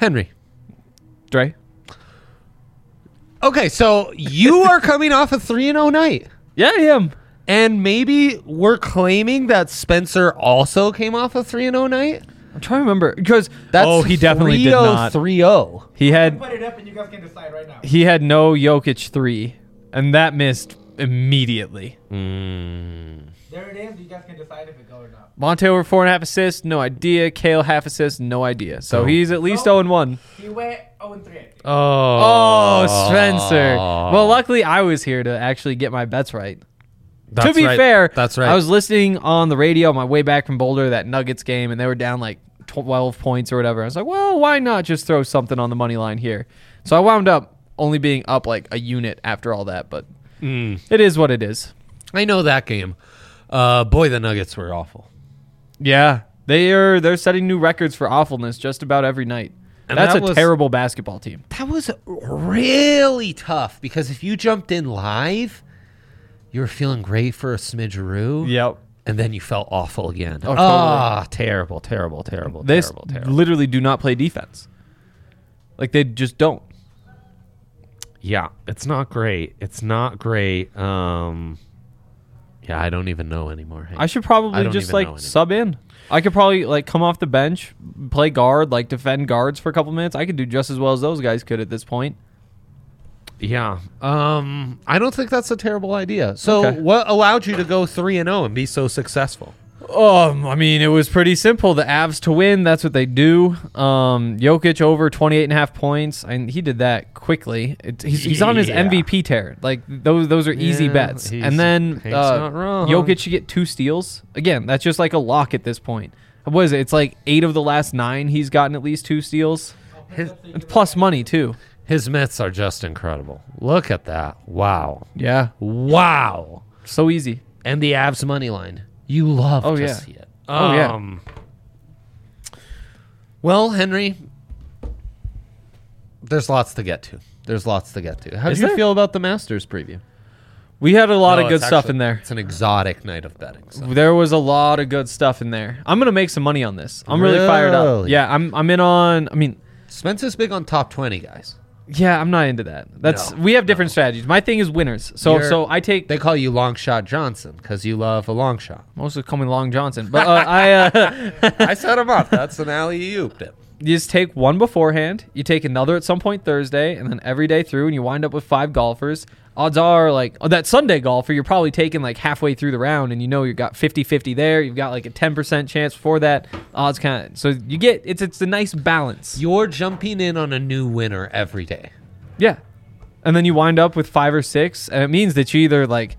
Henry. Dre? Okay, so you are coming off a 3-0 night. Yeah, I am. And maybe we're claiming that Spencer also came off a 3-0 night? I'm trying to remember because That's he definitely did not. 3-0. He had Put it up and you guys can decide right now. he had no Jokic 3, and that missed immediately. There it is. You guys can decide if it goes or not. Monte over 4.5 assists, no idea. Kale half assist, no idea. So Oh. he's at least 0-1. He went 0-3, I think. Oh, Spencer. Well, luckily I was here to actually get my bets right. That's to be right. fair, That's right. I was listening on the radio on my way back from Boulder, that Nuggets game, and they were down like 12 points or whatever. I was like, well, why not just throw something on the money line here? So I wound up only being up like a unit after all that, but it is what it is. I know that game. Boy, the Nuggets were awful. Yeah, they're setting new records for awfulness just about every night. And That's that a was- terrible basketball team. That was really tough because if you jumped in live, you were feeling great for a smidgeroo. Yep. And then you felt awful again. Oh, totally. Terrible, terrible, terrible, They terrible, terrible. literally do not play defense. Like they just don't. Yeah, it's not great. It's not great. Yeah, I don't even know anymore. Hank. I should I probably don't just even know like anymore. sub in. I could probably like come off the bench, play guard, like defend guards for a couple minutes. I could do just as well as those guys could at this point. Yeah. I don't think that's a terrible idea. So, Okay. what allowed you to go 3-0 and be so successful? I mean, it was pretty simple. The Avs to win, that's what they do. Jokic over 28.5 points. And he did that quickly. He's on his Yeah. MVP tear. Like those are easy Yeah, bets. he's- And then Hank's not wrong. Jokic should get 2 steals. Again, that's just like a lock at this point. What is it? It's like 8 of the last 9 he's gotten at least 2 steals. It's plus money too. His myths are just incredible. Look at that. Wow. Yeah. Wow. So easy. And the Avs money line. You love Oh, to yeah. see it. Oh, yeah. Well, Henry, there's lots to get to. How Is do you there? feel about the Masters preview? We had a lot No, of good it's stuff actually- in there. It's an exotic night of betting. So. There was a lot of good stuff in there. I'm gonna make some money on this. I'm really fired up. Really? Yeah, I'm in on. I mean, Spencer's big on top 20 guys. yeah, I'm not into that. We have different strategies. My thing is winners. So I take They call you Long Shot Johnson because you love a long shot. mostly call me Long Johnson, but I I set him up. That's an alley-oop. you just take one beforehand. You take another at some point Thursday, and then every day through, and you wind up with 5 golfers. Odds are like that Sunday golfer, you're probably taking like halfway through the round, and you know you've got 50-50 there. You've got like a 10% chance before that. Odds kind of so you get it's a nice balance. You're jumping in on a new winner every day. Yeah. And then you wind up with 5 or 6, and it means that you either like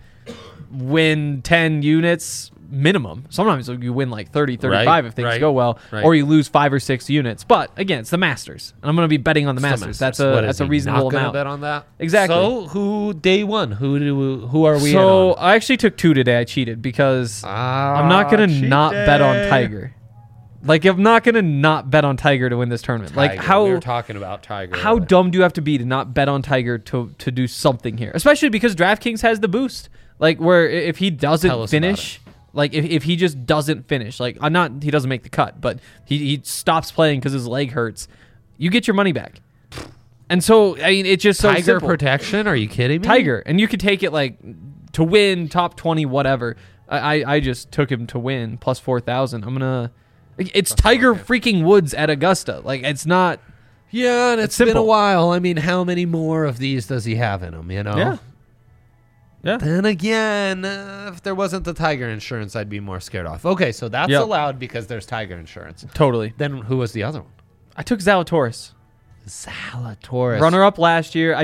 win 10 units minimum. Sometimes you win like 30, 35 Right, if things right, go well, right. or you lose 5 or 6 units. But again, it's the Masters, and I'm going to be betting on the Masters. That's a reasonable Not amount. bet on that. Exactly. So who day one? Who are we? So in on? I actually took 2 today. I cheated because I'm not going to not bet on Tiger. Like I'm not going to not bet on Tiger to win this tournament. Like Tiger. We were talking about Tiger. How dumb do you have to be to not bet on Tiger to do something here? Especially because DraftKings has the boost. Like where if he Tell doesn't us finish, like if he just doesn't finish, like he doesn't make the cut, but he stops playing because his leg hurts, you get your money back. And so I mean it's just so Tiger simple. protection? Are you kidding me? Tiger, and you could take it like to win top 20 whatever. I just took him to win plus 4,000. I'm gonna. It's Tiger freaking Woods at Augusta. Like it's not. Yeah, and It's it's been a simple. while. I mean, how many more of these does he have in him? You know. Yeah. Yeah. Then again, if there wasn't the Tiger insurance, I'd be more scared off. Okay, so that's Yep. allowed because there's Tiger insurance. Totally. Then who was the other one? I took Zalatoris. Zalatoris. Runner up last year.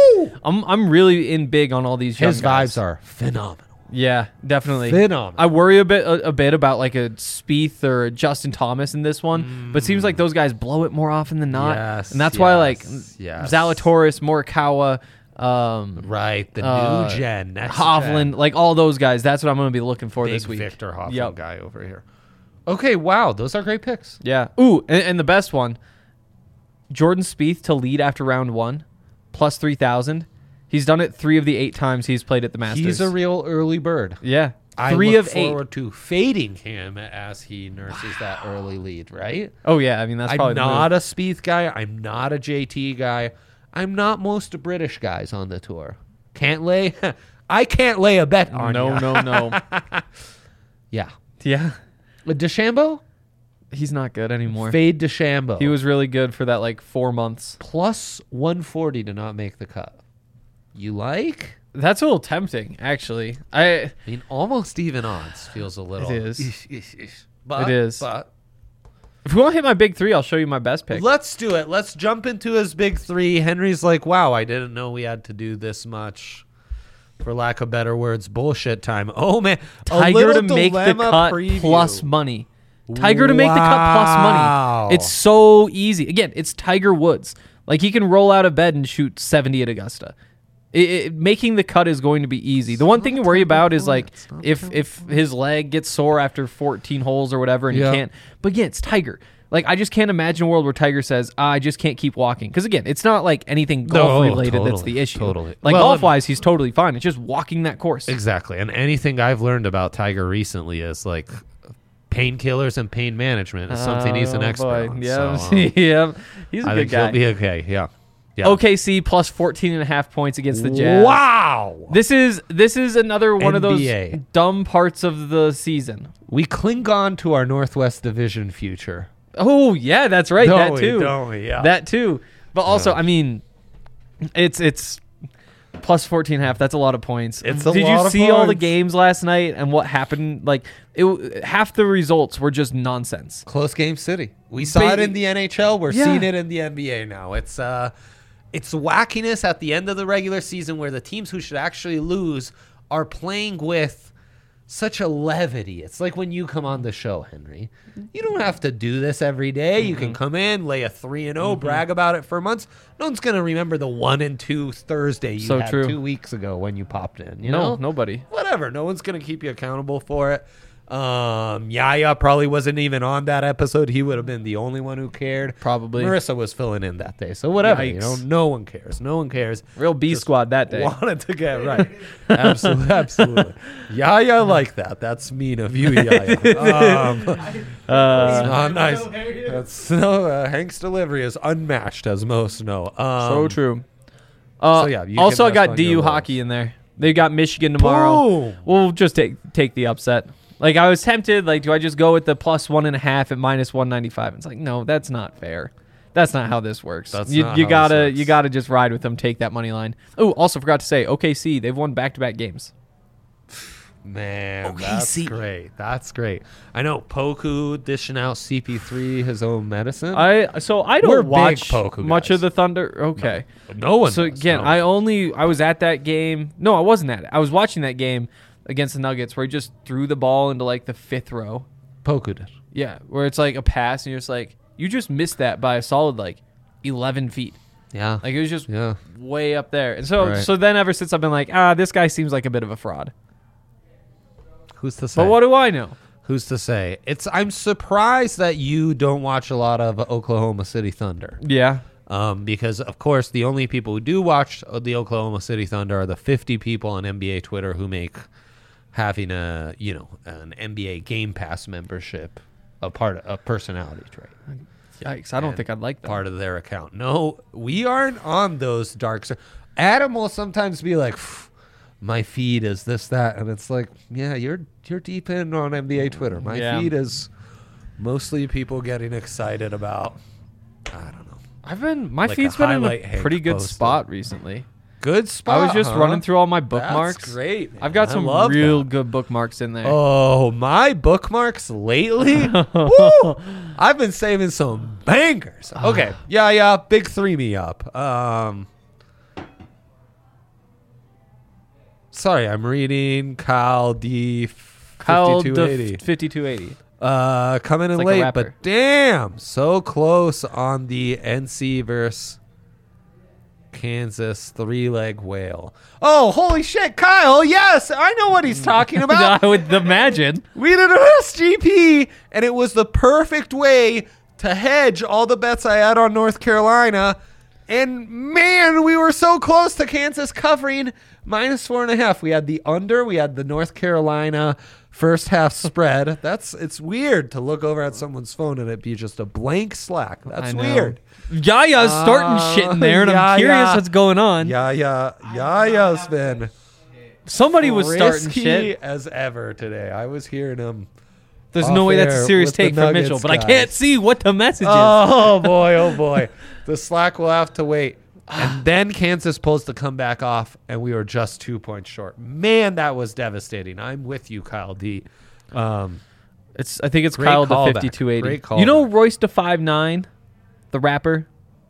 I'm really in big on all these young His guys. vibes are phenomenal. Yeah, definitely. Phenomenal. I worry a bit about like a Spieth or a Justin Thomas in this one, but it seems like those guys blow it more often than not. Yes, and that's why like yes. Zalatoris, Morikawa, Right, the new gen. Next Hovland, like all those guys. That's what I'm going to be looking for Big this week. Victor Hovland Yep. guy over here. Okay, wow, those are great picks. Yeah. Ooh, and the best one, Jordan Spieth to lead after round 1, plus 3,000. He's done it 3 of the 8 times he's played at the Masters. He's a real early bird. Yeah. I 3 look of 8. forward to fading him as he nurses that early lead, right? Oh yeah, I mean that's probably I'm not a Spieth guy. I'm not a JT guy. I'm not most British guys on the tour. Can't lay. I can't lay a bet on ya. No. Yeah. Yeah, DeChambeau? he's not good anymore. Fade DeChambeau. He was really good for that like 4 months. plus 140 to not make the cut. You like? That's a little tempting, actually. I mean, almost even odds feels a little. It is. But, It is. But If you want to hit my big 3, I'll show you my best pick. let's do it. Let's jump into his big 3. Henry's like, wow, I didn't know we had to do this much. For lack of better words, bullshit time. Oh, man. Tiger to make the cut plus money. Tiger to make the cut plus Wow. money. It's so easy. Again, it's Tiger Woods. Like, he can roll out of bed and shoot 70 at Augusta. Making the cut is going to be easy. The one thing you worry about is like if his leg gets sore after 14 holes or whatever and he can't. But again, it's Tiger. Like, I just can't imagine a world where Tiger says, I just can't keep walking. Because again, it's not like anything golf related that's the issue. Totally. Like, Well, golf wise, he's totally fine. It's just walking that course. Exactly. And anything I've learned about Tiger recently is like painkillers and pain management is something he's an expert on. Yeah, So, yeah. He's a I good think guy. he'll be okay. Yeah. OKC plus 14.5 points against the Jazz. Wow. This is another one of those NBA. dumb parts of the season. We cling on to our Northwest Division future. Oh yeah, that's right. Don't that we? too. Don't we? Yeah. That too. But also, Yeah. I mean, it's plus 14.5. That's a lot of points. It's a Did lot you of see all the points. games last night and what happened? Like, half the results were just nonsense. Close game city. We saw it in the NHL. We're Yeah. seeing it in the NBA now. It's wackiness at the end of the regular season where the teams who should actually lose are playing with such a levity. It's like when you come on the show, Henry. You don't have to do this every day. You can come in, lay a 3-0, brag about it for months. No one's going to remember the 1-2 Thursday you So had true. 2 weeks ago when you popped in. You know? Nobody. Whatever. No one's going to keep you accountable for it. Yaya probably wasn't even on that episode. He would have been the only one who cared. Probably. Marissa was filling in that day. So whatever. You know, Yikes. no one cares. No one cares. Real B Just squad that day. Wanted to get right. Absolutely. Yaya like that. That's mean of you, Yaya. It's not nice. That's Hank's delivery is unmatched, as most know. So true. yeah, you also, can I got rest on your DU laurels. hockey in there. They got Michigan tomorrow. Boom. We'll just take the upset. Like, I was tempted. Like, do I just go with the plus 1.5 at minus 195? It's like, no, that's not fair. That's not how this works. That's you not you how gotta this works. you gotta just ride with them. Take that money line. Oh, also forgot to say, OKC, they've won back-to-back games. Man, OKC. that's great. That's great. I know Poku dishing out CP3 his own medicine. I We're don't big watch Poku much guys. of the Thunder. Okay. no one. So does, again, no. I was at that game. No, I wasn't at it. I was watching that game against the Nuggets where he just threw the ball into like the 5th row. Poku did. Yeah, where it's like a pass and you're just like, you just missed that by a solid like 11 feet. Yeah. Like, it was just Yeah. way up there. And so Right. so then ever since I've been like, this guy seems like a bit of a fraud. Who's to say? But what do I know? Who's to say? I'm surprised that you don't watch a lot of Oklahoma City Thunder. Yeah. Because of course the only people who do watch the Oklahoma City Thunder are the 50 people on NBA Twitter who make having an NBA Game Pass membership a personality trait. Yikes. I don't And think I'd like that. part of their account. No, we aren't on those Adam will sometimes be like, my feed is this, that, and it's like, yeah, you're deep in on NBA Twitter. My Yeah. feed is mostly people getting excited about, I don't know. My Like feed's a been in highlight a Hank pretty good posted. spot recently. Good spot. I was just huh? running through all my bookmarks. That's great. man. I've got I some love real that. good bookmarks in there. Oh, my bookmarks lately? Woo! I've been saving some bangers. Okay. Yeah. Big 3 me up. Sorry, I'm reading Kyle D. Kyle 5280. 5280. Coming in like a late, rapper. but damn, so close on the NC versus Kansas 3-leg whale. Oh, holy shit, Kyle! Yes, I know what he's talking about. I would imagine. We did an SGP, and it was the perfect way to hedge all the bets I had on North Carolina. And man, we were so close to Kansas covering -4.5. We had the under. We had the North Carolina first half spread. It's weird to look over at someone's phone and it be just a blank Slack. That's I know. weird. Yaya's starting shit in there, and I'm curious Yaya. what's going on. Yaya's been Somebody was starting frisky shit. as ever today. I was hearing him. There's no way that's a off-air serious with the take from Nuggets Mitchell, but I guys. can't see what the message is. Oh boy, oh boy. The Slack will have to wait. And then Kansas pulls the comeback off, and we were just 2 points short. Man, that was devastating. I'm with you, Kyle D. I think it's Great Kyle the callback. 5280. Great You know callback. Royce the 5'9", the rapper?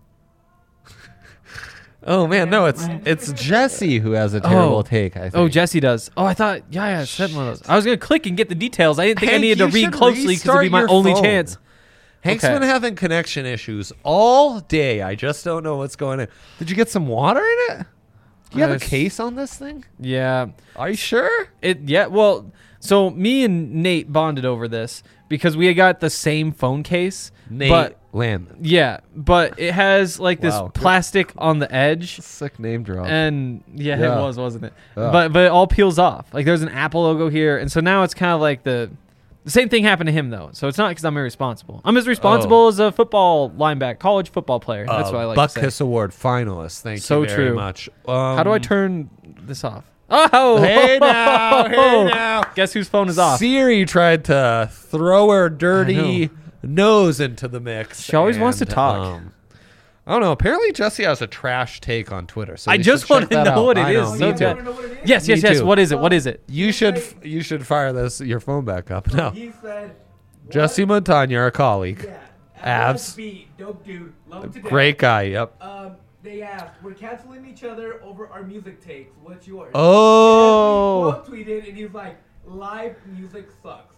Oh man, no, it's Jesse who has a terrible take. I think. Oh, Jesse does. Oh, I thought Yaya sent one of those. I was gonna click and get the details. I didn't think I Hank, needed to you read should closely because it'd be restart my your only phone. chance. Hank's Okay. been having connection issues all day. I just don't know what's going on. Did you get some water in it? Do you have a Yes. case on this thing? Yeah. Are you sure? Well, so me and Nate bonded over this because we had got the same phone case. Nate But Landman. yeah, but it has like this Wow. plastic on the edge. Sick name drop. And yeah, Yeah. it was, wasn't it? Yeah. But it all peels off. Like there's an Apple logo here, and so now it's kind of like the same thing happened to him though. So it's not because I'm irresponsible. I'm as responsible as a football linebacker, college football player. That's what I like to Butkus say. Award finalist. Thank So you very true. much. How do I turn this off? Oh, Hey now, hey now. Guess whose phone is off? Siri tried to throw her dirty nose into the mix. She always wants to and, talk. I don't know. Apparently, Jesse has a trash take on Twitter. So I we just should check want to that know out. what it I is. know, So me bad. too. wanna know what it is? Yes, yes, Me yes. too. What is it? What is it? You should fire your phone back up now. He said, Jesse Montagna, our colleague, yeah, Abs. Beat, dope dude, love him to death. great guy. Yep. They asked, we're canceling each other over our music takes. What's yours? Oh, He tweeted, and he was like, live music sucks.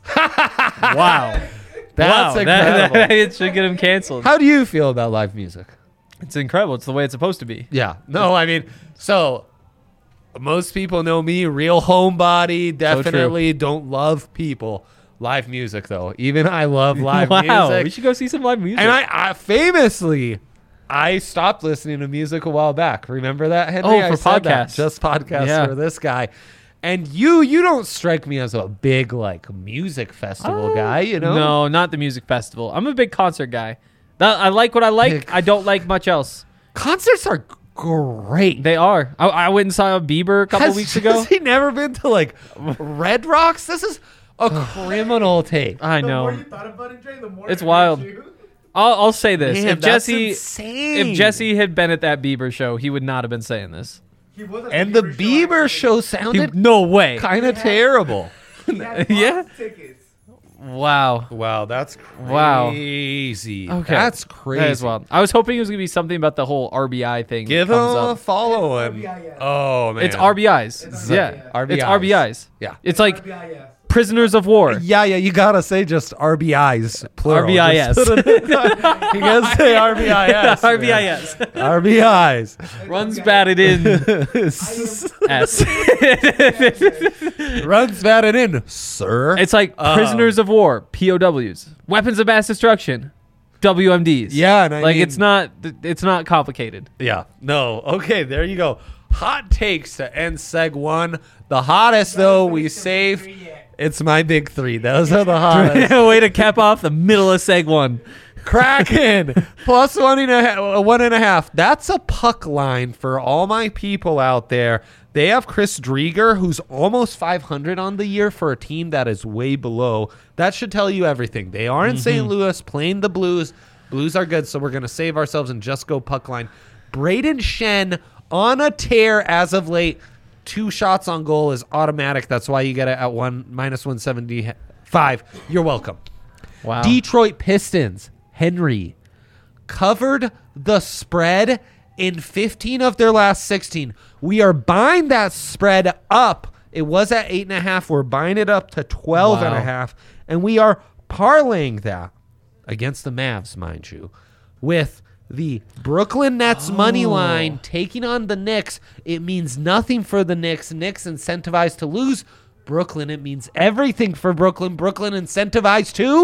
Wow. that's wow. incredible. It should get him canceled. How do you feel about live music? It's incredible. It's the way it's supposed to be. Yeah. No, I mean, so most people know me, real homebody, definitely don't love people. Live music, though. Even I love live wow. music. We should go see some live music. And I famously, I stopped listening to music a while back. Remember that, Henry? Oh, for I said that. podcasts. Just podcasts Yeah. for this guy. And you don't strike me as a big, like, music festival guy, you know? No, not the music festival. I'm a big concert guy. I like what I like. Big- I don't like much else. Concerts are great. They are. I went and saw Bieber a couple Has weeks ago. he never been to, like, Red Rocks? This is a criminal take. I The more know. you thought about it, Dre, the more It's it wild. hurt you. I'll say this: Man, if that's Jesse, insane. if Jesse had been at that Bieber show, he would not have been saying this. He was at And the Bieber actually. show sounded No way. kind of terrible. He had Yeah. box tickets. Wow. Wow, that's Wow. crazy. Okay. That's crazy. That is wild. I was hoping it was gonna be something about the whole RBI thing. Give that him comes a up. follow him. RBIS. Oh man, It's RBIs. It's Yeah. RBIs. It's RBIs. Yeah. It's like RBIS. prisoners of war. Yeah, you gotta say just RBIs plural. RBIS. Just put it in. You gotta say RBIS. man. RBIS. RBIs. Runs batted in. S. Runs batted in, sir. It's like prisoners of war, POWs, weapons of mass destruction, WMDs. Yeah, and I like mean- it's not complicated. Yeah. No. Okay, there you go. Hot takes to end seg 1. The hottest though we save. It's my big 3. Those are the hottest. Way to cap off the middle of seg 1. Kraken plus 1.5. That's a puck line for all my people out there. They have Chris Drieger, who's almost 500 on the year for a team that is way below. That should tell you everything. They are in St. Louis playing the Blues. Blues are good, so we're going to save ourselves and just go puck line. Braden Shen on a tear as of late. 2 shots on goal is automatic. That's why you get it at -175. You're welcome. Wow. Detroit Pistons, Henry, covered the spread in 15 of their last 16. We are buying that spread up. It was at 8.5. We're buying it up to 12.5. And we are parlaying that against the Mavs, mind you, with the Brooklyn Nets money line taking on the Knicks. It means nothing for the Knicks. Knicks incentivized to lose. Brooklyn, it means everything for Brooklyn. Brooklyn incentivized to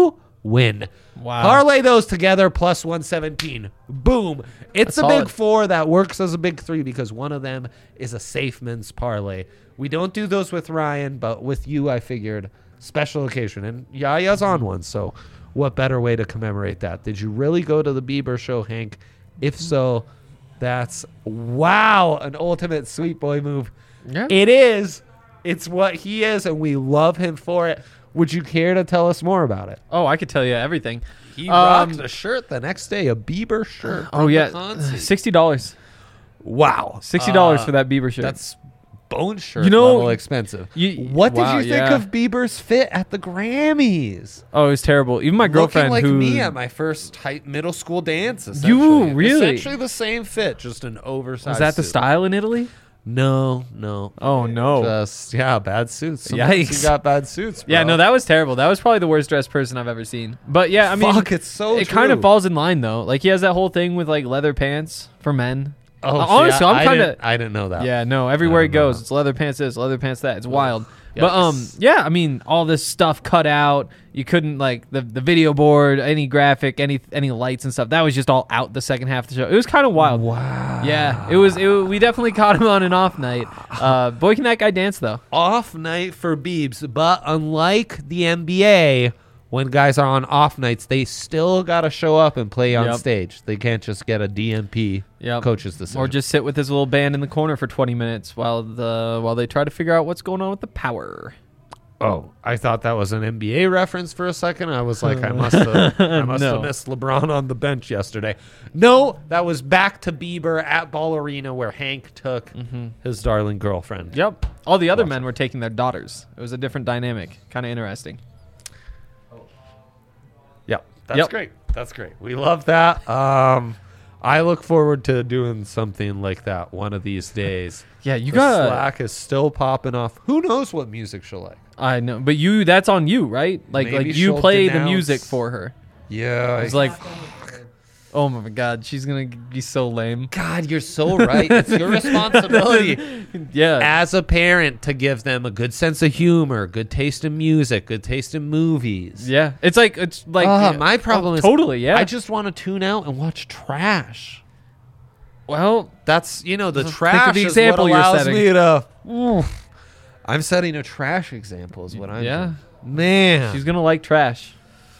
win. Wow. Parlay those together plus 117. Boom. It's That's a big solid. 4 that works as a big 3 because one of them is a safe men's parlay. We don't do those with Ryan, but with you, I figured special occasion. And Yaya's on one, so what better way to commemorate that? Did you really go to the Bieber show, Hank? If so, that's, wow, an ultimate sweet boy move. Yeah. It is. It's what he is, and we love him for it. Would you care to tell us more about it? Oh, I could tell you everything. He rocked a shirt the next day, a Bieber shirt. Oh from yeah, the concert. $60. Wow. $60 for that Bieber shirt. That's bone shirt You know, level expensive. you- What did wow, you think yeah. of Bieber's fit at the Grammys? Oh, it was terrible. Even my girlfriend, Looking like who me at my first middle school dance. You really? Essentially the same fit, just an oversized was that the suit. style in Italy? No. Oh no. Just, yeah, bad suits. Sometimes Yikes. You got bad suits, bro. Yeah, no, that was terrible. That was probably the worst dressed person I've ever seen. But yeah, I mean, Fuck, it's so it kind of true. falls in line though. Like he has that whole thing with like leather pants for men. Oh, honestly, see, I'm kind of. I didn't know that. Yeah, no. Everywhere he don't know. goes, it's leather pants this, leather pants that. It's wild. But Yikes. yeah, I mean, all this stuff cut out. You couldn't like the video board, any graphic, any lights and stuff. That was just all out the second half of the show. It was kind of wild. Wow. Yeah, it was. We definitely caught him on an off night. Boy, can that guy dance though? Off night for Biebs, but unlike the NBA, when guys are on off nights, they still got to show up and play on Yep. stage. They can't just get a DMP Yep. coach's decision. Or just sit with his little band in the corner for 20 minutes while they try to figure out what's going on with the power. Oh, I thought that was an NBA reference for a second. I was like, I must have No. missed LeBron on the bench yesterday. No, that was back to Bieber at Ball Arena where Hank took his darling girlfriend. Yep. All the other men were taking their daughters. It was a different dynamic. Kind of interesting. Yep, that's Yep. great. That's great. We love that. I look forward to doing something like that one of these days. Yeah, you The got. Slack is still popping off. Who knows what music she'll like? I know, but that's on you, right? Like Maybe you she'll play the denounce- music for her. Yeah. It's like, oh my god, she's gonna be so lame. God, you're so right. It's your responsibility Yeah. as a parent to give them a good sense of humor, good taste in music, good taste in movies. Yeah. It's like My problem is totally. Yeah. I just want to tune out and watch trash. well, That's the Think of trash the is example what you're allows setting. me to. I'm setting a trash example is what I'm Yeah. doing. Man. she's gonna like trash.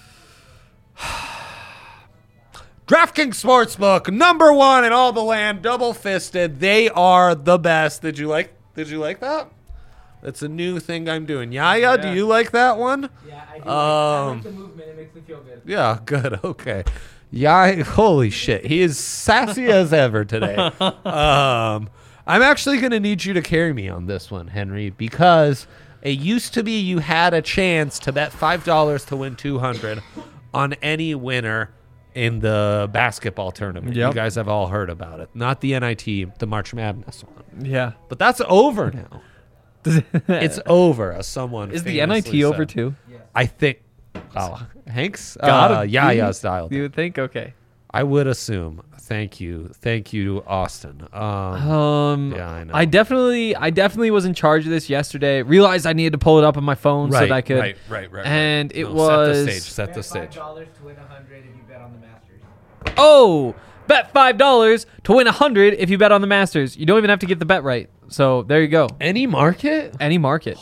DraftKings Sportsbook, #1 in all the land, double fisted. They are the best. Did you like that? That's a new thing I'm doing. Yaya, do Yeah. you like that one? Yeah, I do. I Um, like the movement. It makes me feel good. Yeah, good. Okay. Yeah, holy shit. He is sassy as ever today. I'm actually going to need you to carry me on this one, Henry, because it used to be you had a chance to bet $5 to win 200 on any winner in the basketball tournament. Yep. You guys have all heard about it. Not the NIT, the March Madness one. Yeah. But that's over now. It's over, as someone Is the famously NIT over said. too? I think. Oh, Hank's Gotta Yaya be. style. You would think? Okay. I would assume. Thank you, Austin. Yeah, I know. I definitely was in charge of this yesterday. Realized I needed to pull it up on my phone so that I could. Right. And it No, was. set the stage. $5 to win 100 if you bet on the Masters. Oh, bet $5 to win 100 if you bet on the Masters. You don't even have to get the bet right. So there you go. Any market? Any market.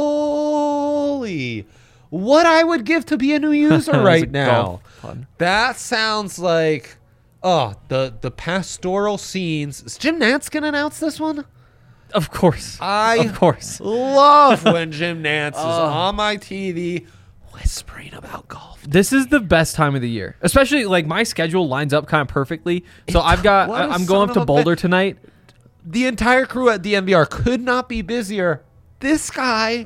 Holy! What I would give to be a new user That was a right now. golf pun. That sounds like the pastoral scenes. Is Jim Nantz gonna announce this one? Of course. Of course. Love when Jim Nantz is on my TV whispering about golf. This is the best time of the year, especially like my schedule lines up kind of perfectly. So I'm going son up of to a Boulder bitch. tonight. The entire crew at DNVR could not be busier. This guy.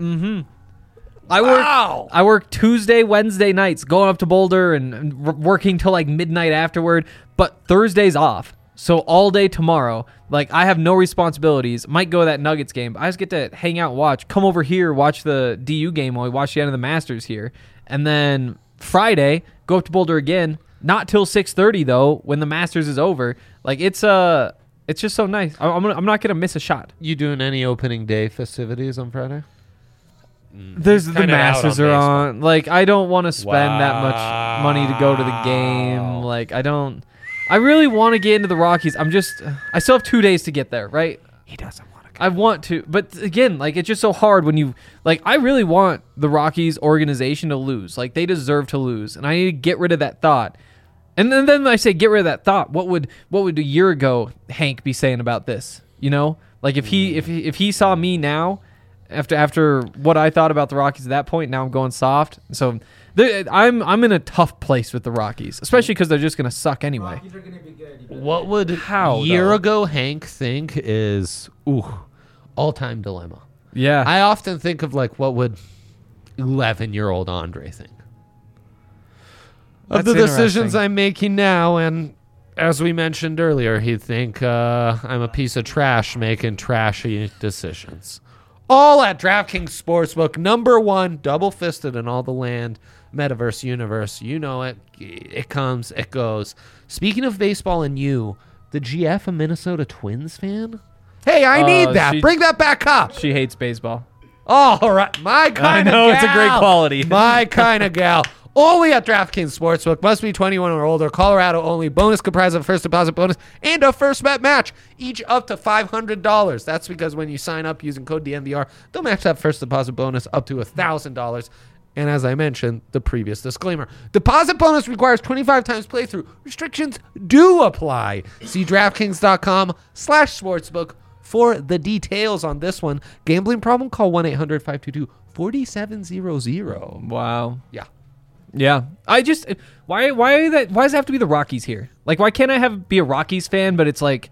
Wow. I work Tuesday, Wednesday nights, going up to Boulder and working till like midnight afterward. But Thursday's off, so all day tomorrow. Like I have no responsibilities. Might go to that Nuggets game. But I just get to hang out, and watch. Come over here, watch the DU game while we watch the end of the Masters here, and then Friday go up to Boulder again. Not till 6:30 though, when the Masters is over. Like it's just so nice. I'm not gonna miss a shot. You doing any opening day festivities on Friday? There's the kinda out Masters on are baseball. on. Like, I don't want to spend that much money to go to the game. Wow. Like, I really want to get into the Rockies. I still have 2 days to get there, right? He doesn't want to. I want to, but again, like, it's just so hard when I really want the Rockies organization to lose. Like, they deserve to lose, and I need to get rid of that thought. And then I say get rid of that thought. What would a year ago Hank be saying about this? You know, like if he saw me now, after what I thought about the Rockies at that point, now I'm going soft. So I'm in a tough place with the Rockies, especially because they're just gonna suck anyway. Rockies are gonna be good. You better What would How, year though? ago Hank think is all-time dilemma? Yeah, I often think of like what would 11-year-old Andre think of That's the decisions interesting. I'm making now, and as we mentioned earlier, he'd think I'm a piece of trash making trashy decisions. All at DraftKings Sportsbook, #1, double-fisted in all the land, metaverse universe. You know it. It comes, it goes. Speaking of baseball and you, the GF a Minnesota Twins fan? Hey, I need that. Bring that back up. she hates baseball. All right, my kind of gal. know, it's a great quality. My kind of gal. Only at DraftKings Sportsbook. Must be 21 or older. Colorado only. Bonus comprised of a first deposit bonus and a first bet match. Each up to $500. That's because when you sign up using code DNVR, they'll match that first deposit bonus up to $1,000. And as I mentioned, the previous disclaimer, deposit bonus requires 25 times playthrough. Restrictions do apply. See DraftKings.com/sportsbook for the details on this one. Gambling problem? Call 1-800-522-4700. Wow. Yeah. Yeah, I just why does it have to be the Rockies here? Like, why can't I be a Rockies fan, but it's like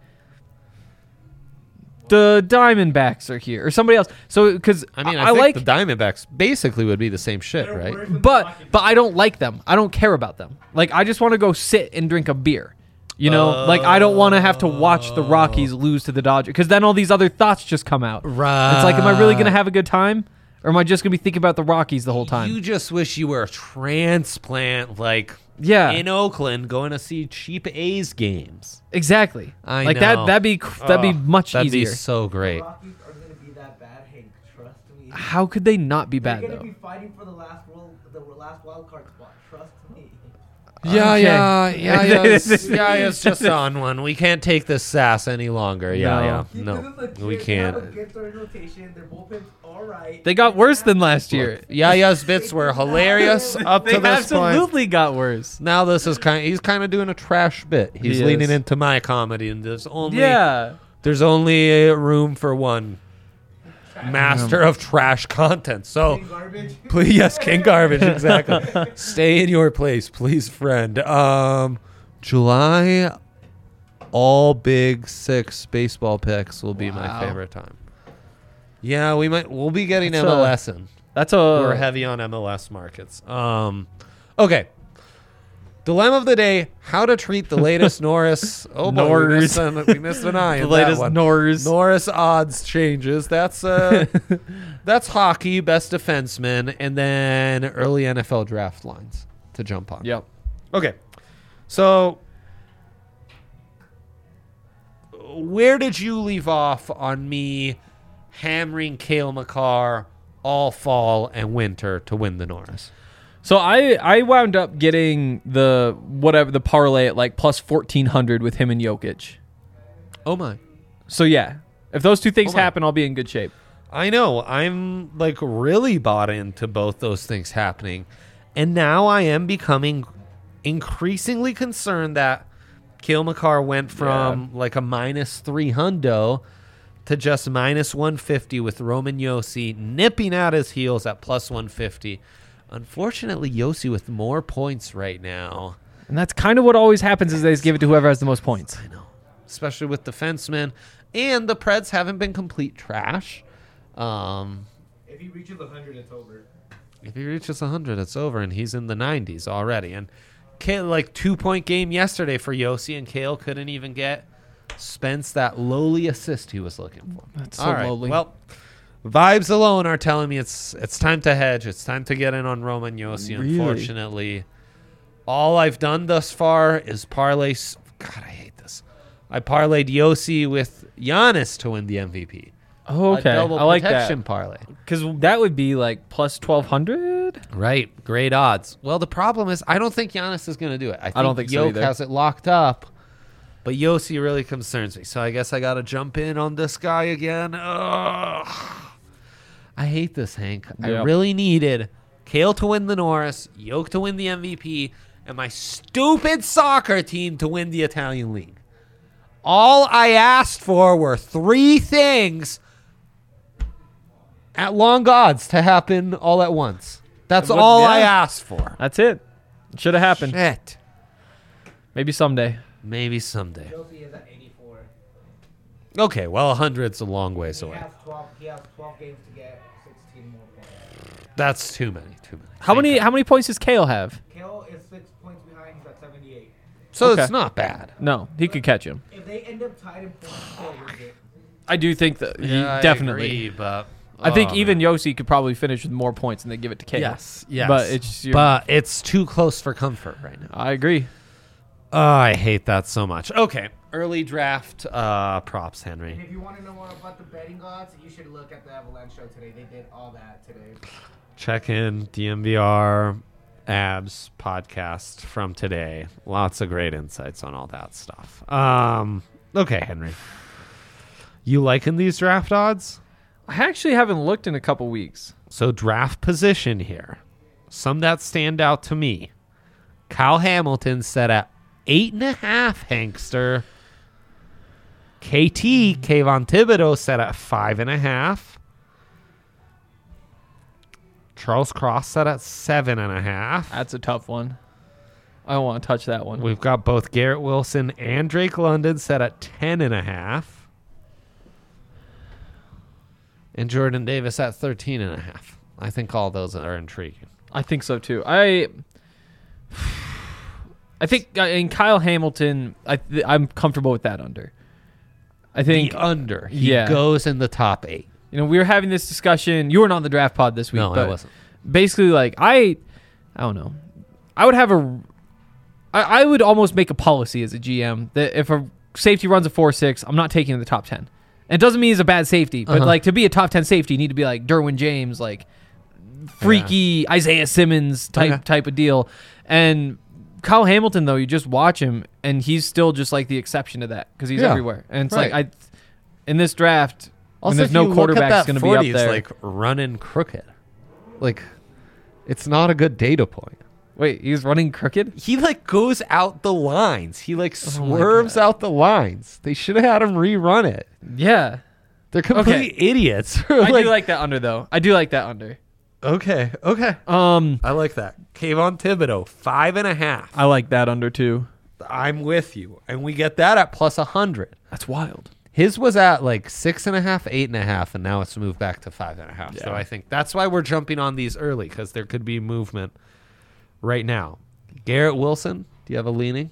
the Diamondbacks are here or somebody else? So because I mean, I think like, the Diamondbacks basically would be the same shit, They're right? worse than the but Rockies. I don't like them. I don't care about them. Like, I just want to go sit and drink a beer. You know, like, I don't want to have to watch the Rockies lose to the Dodgers because then all these other thoughts just come out. Right. It's like, am I really gonna have a good time? Or am I just going to be thinking about the Rockies the whole time? You just wish you were a transplant, like Yeah. in Oakland, going to see cheap A's games. Exactly. I like know. that'd be much That'd easier. be so great. The Rockies are gonna be that bad, Hank. Trust me. How could they not be They're bad gonna though? be fighting for the last wild card spot. Trust me. Yeah, Okay. it's just on one. We can't take this sass any longer. Yeah, Keep no, it legit. we They have a can't. good starting rotation. Their bullpen's all right. They got worse than last year. Yaya's bits were hilarious up They to this point. absolutely got worse. Now this is he's kind of doing a trash bit. He's He leaning is. into my comedy, and there's only room for one master of trash content. So King garbage. please, yes, King Garbage, exactly. Stay in your place, please, friend. July, all Big Six baseball picks will be my Wow. favorite time. Yeah, we'll be getting That's MLS in. That's We're heavy on MLS markets. Okay. Dilemma of the day: how to treat the latest Norris. Oh boy, Norris. we missed an eye. the in latest that one. Norris. odds changes. That's that's hockey, best defenseman, and then early NFL draft lines to jump on. Yep. Okay. So where did you leave off on me hammering Cale Makar all fall and winter to win the Norris? So I wound up getting the parlay at like plus 1,400 with him and Jokic. Oh my. So yeah, if those two things Oh my. happen, I'll be in good shape. I know. I'm like really bought into both those things happening. And now I am becoming increasingly concerned that Cale Makar went from like a -3 hundo to just -150 with Roman Yossi nipping at his heels at plus 150. Unfortunately, Yossi with more points right now. And that's kind of what always happens is they just give it to whoever has the most points. I know. Especially with defensemen. And the Preds haven't been complete trash. If he reaches 100, it's over. If he reaches 100, it's over, and he's in the 90s already. And Kale, like 2-point game yesterday for Yossi, and Kale couldn't even get Spence that lowly assist he was looking for. That's so All right. lowly. Well, vibes alone are telling me it's time to hedge. It's time to get in on Roman Yossi. Really? Unfortunately, all I've done thus far is parlay. God, I hate this. I parlayed Yossi with Giannis to win the MVP. Oh, okay. A double I like protection that. parlay. Because that would be like plus 1,200. Right. Great odds. Well, the problem is I don't think Giannis is going to do it. I don't think so Jokic either. has it locked up. But Yossi really concerns me. So I guess I got to jump in on this guy again. Ugh. I hate this, Hank. I Yep. really needed Kale to win the Norris, Yoke to win the MVP, and my stupid soccer team to win the Italian League. All I asked for were 3 things at long odds to happen all at once. That's But, all I yeah. asked for. That's it. Should have happened. Shit. Maybe someday. Maybe someday. Josie is at 84. Okay, well, 100's a long ways He away. has 12 games to get 16 more points. That's too many. How many points does Kale have? Kale is 6 points behind. He's at 78. So Okay. it's not bad. No, he could catch him. If they end up tied in points, Kale wins it. I do think that he Yeah, definitely. I agree, but I think oh, even man. Yossi could probably finish with more points and they give it to Kale. Yes. But it's but it's too close for comfort right now. I agree. Oh, I hate that so much. Okay, early draft props, And Henry. if you want to know more about the betting odds, you should look at the Avalanche show today. They did all that today. Check in DMVR Abs podcast from today. Lots of great insights on all that stuff. Okay, Henry. You liking these draft odds? I actually haven't looked in a couple weeks. So draft position here. Some that stand out to me. Kyle Hamilton set at 8.5, Hankster. KT, Kayvon Thibodeau, set at 5.5. Charles Cross set at 7.5. That's a tough one. I don't want to touch that one. We've got both Garrett Wilson and Drake London set at 10.5. And Jordan Davis at 13.5. I think all those are intriguing. I think so too. I think in Kyle Hamilton, I'm comfortable with that under. I think The under. He yeah. goes in the top 8. we were having this discussion. You weren't on the draft pod this week. No, I but wasn't. Basically, like I don't know. I would have I would almost make a policy as a GM that if a safety runs a 4.6, I'm not taking in the top 10. And it doesn't mean he's a bad safety, but like to be a top 10 safety, you need to be like Derwin James, like freaky Isaiah Simmons type of deal. And Kyle Hamilton, though, you just watch him, and he's still just like the exception to that because he's Yeah. everywhere. And it's Right. like in this draft, Also, when there's if no you look at quarterback that going to be 40, up there. It's like running crooked. Like, it's not a good data point. Wait, he's running crooked? He like goes out the lines. He like Oh my swerves God. out the lines. They should have had him rerun it. Yeah. They're complete idiots. I do like that under, though. I do like that under. Okay. I like that. Kayvon Thibodeau, 5.5. I like that under, too. I'm with you. And we get that at plus 100. That's wild. His was at like 6.5, 8.5, and now it's moved back to 5.5. So Yeah. I think that's why we're jumping on these early, because there could be movement right now. Garrett Wilson, do you have a leaning?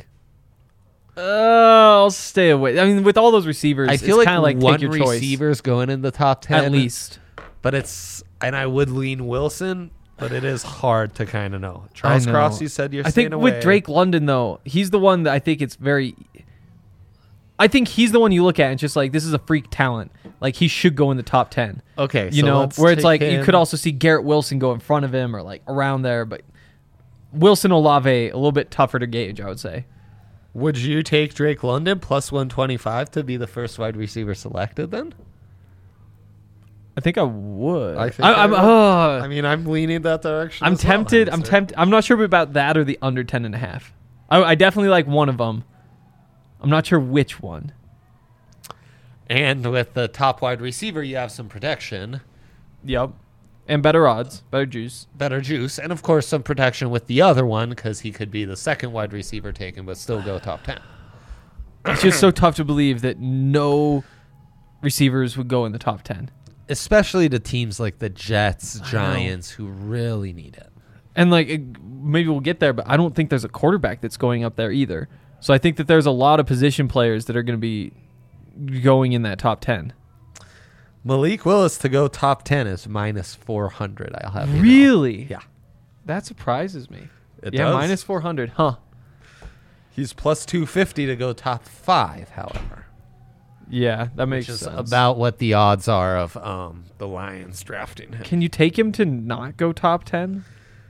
I'll stay away. I mean, with all those receivers, I feel it's like kind of like one take your choice. receiver's going in the top 10. At least. But and I would lean Wilson, but it is hard to kind of know. Charles I know. Cross, you said you're I staying think away. with Drake London, though, he's the one that I think it's very. I think he's the one you look at and just like, this is a freak talent. Like, he should go in the top 10. Okay, You so know, let's where it's take like, you him. could also see Garrett Wilson go in front of him or like around there, but Wilson Olave, a little bit tougher to gauge, I would say. Would you take Drake London plus 125 to be the first wide receiver selected then? I think I would. I think I'm, I would. I mean, I'm leaning that direction. I'm as well, tempted. I'm Hanser. tempted. I'm not sure about that or the under 10.5. I definitely like one of them. I'm not sure which one. And with the top wide receiver, you have some protection, Yep. And better odds, better juice. better juice, and of course some protection with the other one because he could be the second wide receiver taken but still go top 10. It's just so tough to believe that no receivers would go in the top 10. Especially to teams like the Jets, Giants, who really need it. And like maybe we'll get there, but I don't think there's a quarterback that's going up there either. So I think that there's a lot of position players that are going to be going in that top 10. Malik Willis to go top 10 is minus 400. I'll have you know. Really? Yeah. That surprises me. It Yeah, does. minus 400. Huh. He's plus 250 to go top 5, however. Yeah, that makes which is sense. about what the odds are of the Lions drafting him. Can you take him to not go top 10?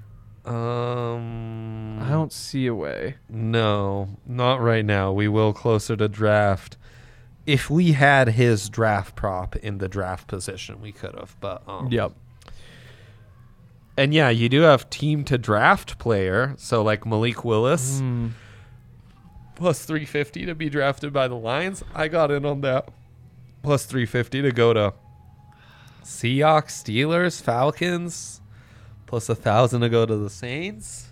I I don't see a way. No, not right now. We will closer to draft. If we had his draft prop in the draft position, we could have. But Yep. And yeah, you do have team to draft player. So like Malik Willis plus 350 to be drafted by the Lions. I got in on that. Plus 350 to go to Seahawks, Steelers, Falcons. Plus 1,000 to go to the Saints.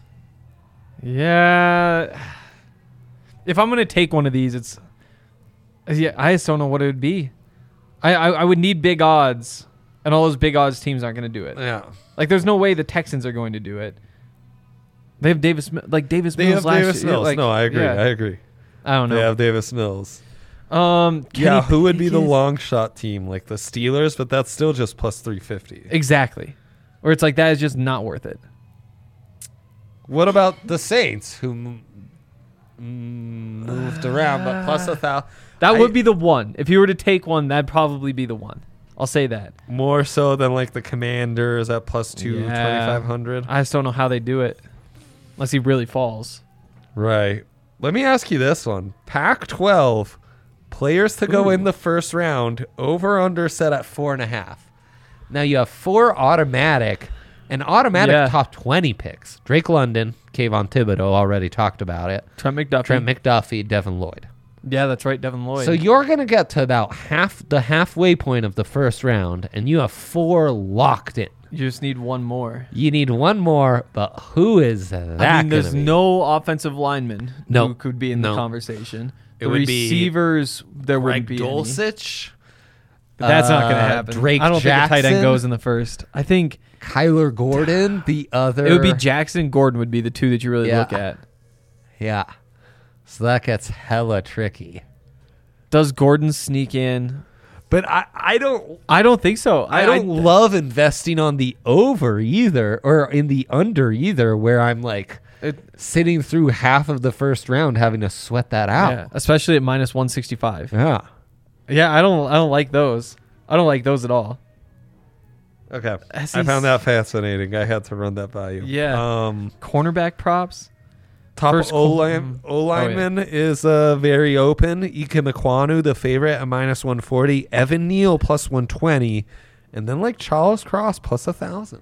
Yeah. If I'm gonna take one of these, I just don't know what it would be. I would need big odds, and all those big odds teams aren't gonna do it. Yeah. Like, there's no way the Texans are going to do it. They have Davis Mills They have last Davis year. Mills. Like, No, I agree. yeah. I agree. I don't know. They have Davis Mills. Yeah, Yeah, who would be the long shot team? Like the Steelers, but that's still just plus 350. Exactly. Or it's like, that is just not worth it. What about the Saints, who moved around, but plus 1,000? That would be the one. If you were to take one, that'd probably be the one. I'll say that. More so than like the Commanders at plus 2,500. I just don't know how they do it. Unless he really falls. Right. Let me ask you this one. Pac-12, players to go in the first round, over under set at 4.5. Now you have 4 automatic top 20 picks. Drake London, Kayvon Thibodeau, already talked about it. Trent McDuffie. Devin Lloyd. Yeah, that's right, Devin Lloyd. So you're going to get to about the halfway point of the first round, and you have 4 locked in. You just need one more. You need one more, but who is that? I mean, there's gonna be? no offensive lineman No. who could be in the No. conversation. It The would be receivers, there Greg wouldn't be any. Dulcich. That's not going to happen. Drake I don't think a tight Jackson. end goes in the first. I think Kyler Gordon, the other. it would be Jackson and Gordon would be the two that you really Yeah. look at. Yeah. So that gets hella tricky. Does Gordon sneak in? But I don't I don't think so. I don't love investing on the over either or in the under either, where I'm like sitting through half of the first round having to sweat that out. Yeah, especially at minus 165. Yeah. Yeah, I don't like those. I don't like those at all. Okay. I SEC found that fascinating. I had to run that by you. Yeah. Cornerback props. Top First O-lineman is very open. Ike Mekwonu, the favorite, at minus 140. Evan Neal plus 120. And then like Charles Cross plus 1,000.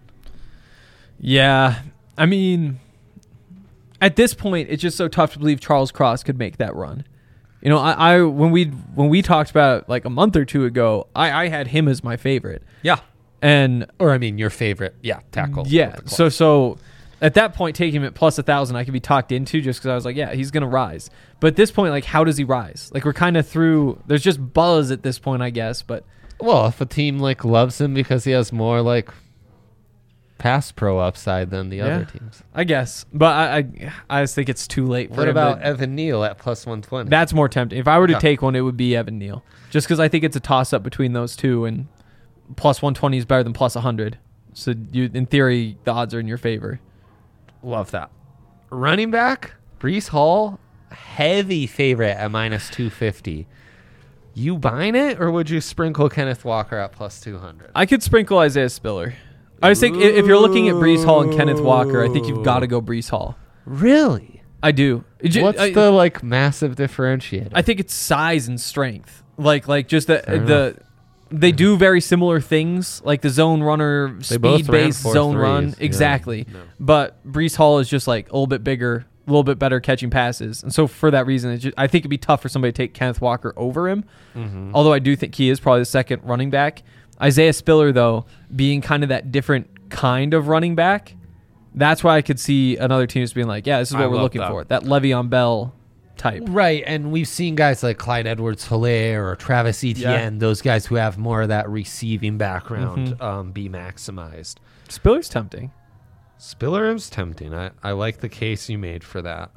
Yeah, I mean, at this point, it's just so tough to believe Charles Cross could make that run. You know, I when we talked about it like a month or two ago, I had him as my favorite. Yeah. And Or I mean your favorite, tackle. yeah, so at that point, taking him at plus 1,000, I could be talked into just because I was like, yeah, he's gonna rise. But at this point, like, how does he rise? Like, we're kind of through. There's just buzz at this point, I guess. But Well, if a team like loves him because he has more like pass pro upside than the other teams. I guess. But I just think it's too late for What him about to- Evan Neal at plus 120? That's more tempting. If I were to Okay. take one, it would be Evan Neal. Just because I think it's a toss-up between those two, and plus 120 is better than plus 100. So, in theory, the odds are in your favor. Love that. Running back, Breece Hall, heavy favorite at minus 250. You buying it, or would you sprinkle Kenneth Walker at plus 200? I could sprinkle Isaiah Spiller. I just think if you're looking at Breece Hall and Kenneth Walker, I think you've got to go Breece Hall. Really? I do. What's the like massive differentiator? I think it's size and strength. Like just Fair enough. they do very similar things, like the zone runner, They both speed-based ran zone 4.3s. run. Yeah. Exactly. No. But Breece Hall is just like a little bit bigger, a little bit better catching passes. And so for that reason, I think it'd be tough for somebody to take Kenneth Walker over him. Mm-hmm. Although I do think he is probably the second running back. Isaiah Spiller, though, being kind of that different kind of running back, that's why I could see another team just being like, yeah, this is what I we're love looking that. for. That Le'Veon Bell type. Right, and we've seen guys like Clyde Edwards-Helaire or Travis Etienne, those guys who have more of that receiving background, be maximized. Spiller's tempting. Spiller is tempting. I like the case you made for that.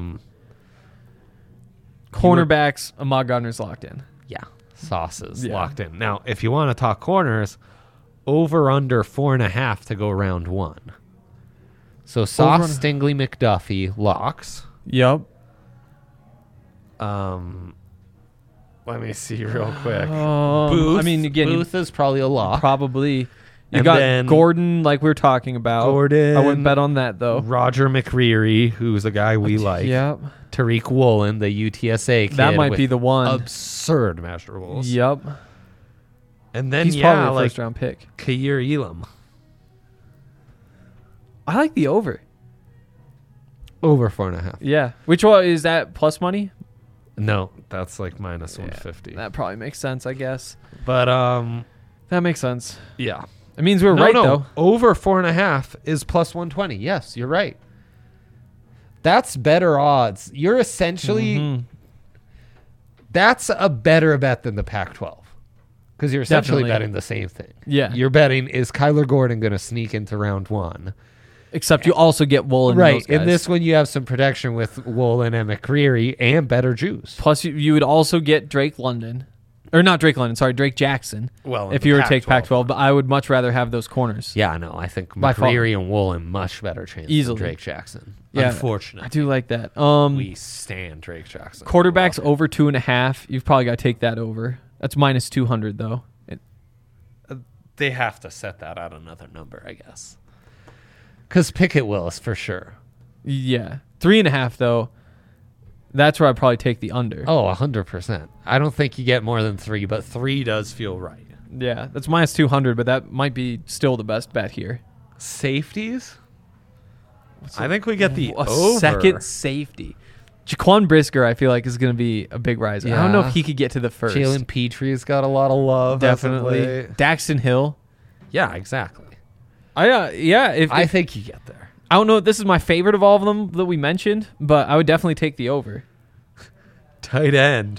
Cornerbacks, Ahmad Gardner's locked in. Yeah, sauces Yeah. locked in. Now, if you want to talk corners, over under 4.5 to go round one. So Sauce, Stingley, McDuffie, locks. Yep. Let me see real quick. I mean, again, Booth is probably a lock. probably. You And got then- Gordon, like we were talking about. Gordon. I wouldn't bet on that though. Roger McCreary, who's a guy we like. Yep. Tariq Woolen, the UTSA kid. That might with be the one. absurd measurables. Yep. And then, He's probably a like first round pick. Kair Elam. I like the over. Over 4.5. Yeah. Which one is that? Plus money? No, that's like minus 150. That probably makes sense, I guess. But, That makes sense. yeah. It means we're right though. Over 4.5 is plus 120. Yes, you're right. That's better odds. You're essentially Mhm. that's a better bet than the Pac-12 because you're essentially Definitely. betting the same thing. Yeah. You're betting is Kyler Gordon going to sneak into round one? Except you also get Woolen. Right. Those guys. In this one, you have some protection with Woolen and McCreary and better juice. Plus, you would also get Drake London. Or not Drake London, sorry, Drake Jackson. Well, if you were to take Pac-12, but I would much rather have those corners. Yeah, no, I think By far. McCreary and Woolen much better chance Easily. than Drake Jackson. Yeah, Unfortunately. I do like that. We stand Drake Jackson. Quarterbacks Love him. over 2.5. You've probably got to take that over. That's minus 200 though. They have to set that at another number, I guess. Because Pickett Willis for sure. Yeah, 3.5 though. That's where I'd probably take the under. Oh, 100%. I don't think you get more than 3, but 3 does feel right. Yeah, that's minus 200, but that might be still the best bet here. Safeties? I think we get the A over. second safety. Jaquan Brisker, I feel like, is going to be a big riser. I don't know Yeah. if he could get to the first. Jalen Petree's got a lot of love. as of Definitely. late. Daxton Hill. Yeah, exactly. I think you get there. I don't know. This is my favorite of all of them that we mentioned, but I would definitely take the over. Tight end.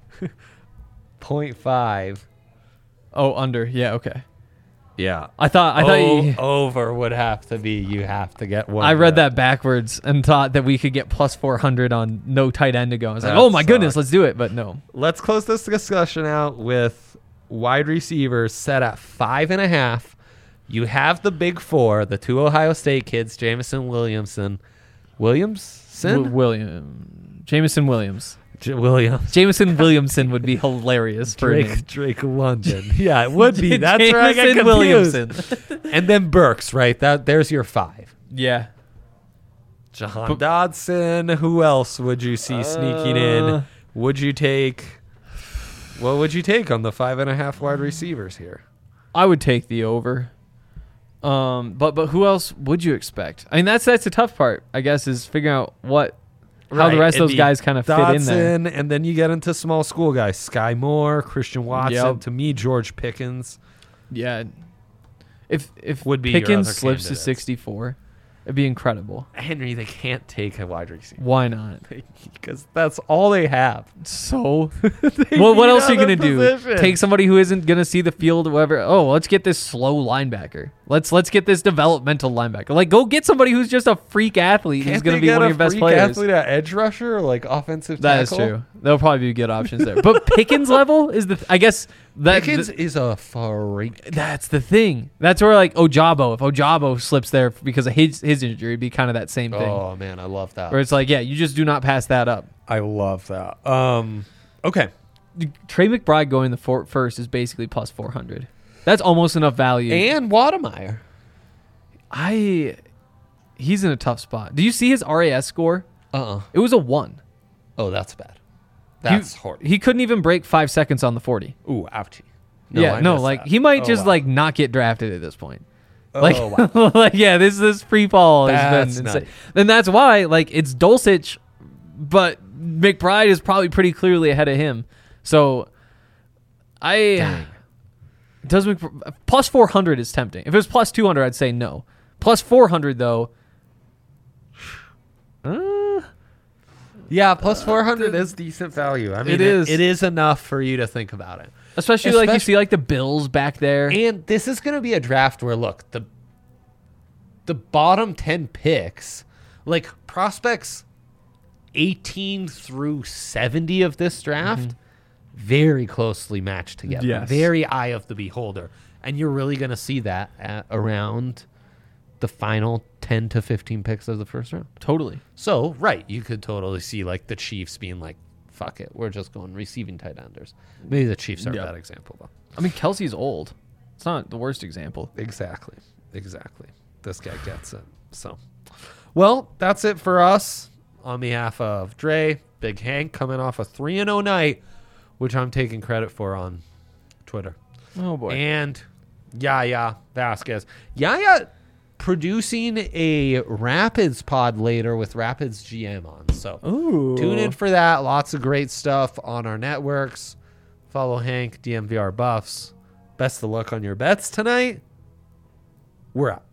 0.5. Oh, under. Yeah, okay. Yeah. I thought Over would have to be you have to get one. I read that backwards and thought that we could get plus 400 on no tight end to go. I was like, That oh my goodness, sucks. let's do it. But no. Let's close this discussion out with wide receivers set at 5.5. You have the big four, the two Ohio State kids, Jamison Williamson. Williamson? Jameson Williams. Williams. Jameson Williamson would be hilarious for a name. Drake London. Yeah, it would be. That's where I get Jameson confused. And then Burks, right? There's your 5. Yeah. Jahan Dodson. Who else would you see sneaking in? Would you take? What would you take on the 5.5 wide receivers here? I would take the over. But who else would you expect? I mean, that's the tough part, I guess, is figuring out how the rest of it'd those be guys kind of fit in there. Dodson, and then you get into small school guys. Sky Moore, Christian Watson. Yep. To me, George Pickens. Yeah. If Would be your Pickens other slips to candidates. 64, it'd be incredible. Henry, they can't take a wide receiver Why not? because that's all they have. So, They well, what need else are you other gonna do? positions. Take somebody who isn't gonna see the field or whatever. Oh, let's get this slow linebacker. Let's get this developmental linebacker. Like, go get somebody who's just a freak athlete who's Can't gonna they be get one of a your best freak players. athlete at edge rusher or like offensive That is tackle? true. There'll probably be good options there. But Pickens level is I guess that Pickens is a freak. that's the thing. That's where like Ojabo. If Ojabo slips there because of his injury, it'd be kind of that same thing. Oh man, I love that. Where it's like, yeah, you just do not pass that up. I love that. Okay. Trey McBride going the first is basically plus 400. That's almost enough value. And Wademeyer. He's in a tough spot. Do you see his RAS score? It was a 1. Oh, that's bad. That's horrible. He couldn't even break 5 seconds on the 40. Ooh, ouchie. I missed like that. he might Oh, just wow. like not get drafted at this point. Oh, Like, wow. like yeah, this free fall has That's been nutty. insane. And that's why like it's Dulcich, but McBride is probably pretty clearly ahead of him. So Dang. plus 400 is tempting. If it was plus 200, I'd say no. Plus 400 though. Yeah, plus 400 is decent value. I mean, It is. It is enough for you to think about it. Especially like you see like the Bills back there. And this is going to be a draft where, look, the bottom 10 picks, like prospects 18 through 70 of this draft, very closely matched together. Yes. Very eye of the beholder. And you're really going to see that at around the final 10 to 15 picks of the first round. Totally. So, right, you could totally see like the Chiefs being like fuck it. We're just going receiving tight enders. Maybe the Chiefs are Yeah. a bad example, though. I mean, Kelsey's old. It's not the worst example. Exactly. This guy gets it. So, well, that's it for us. On behalf of Dre, Big Hank, coming off a 3-0 night, which I'm taking credit for on Twitter. Oh, boy. And Yaya Vasquez. Yaya producing a Rapids pod later with Rapids GM on. So Ooh. tune in for that. Lots of great stuff on our networks. Follow Hank, DMVR Buffs. Best of luck on your bets tonight. We're out.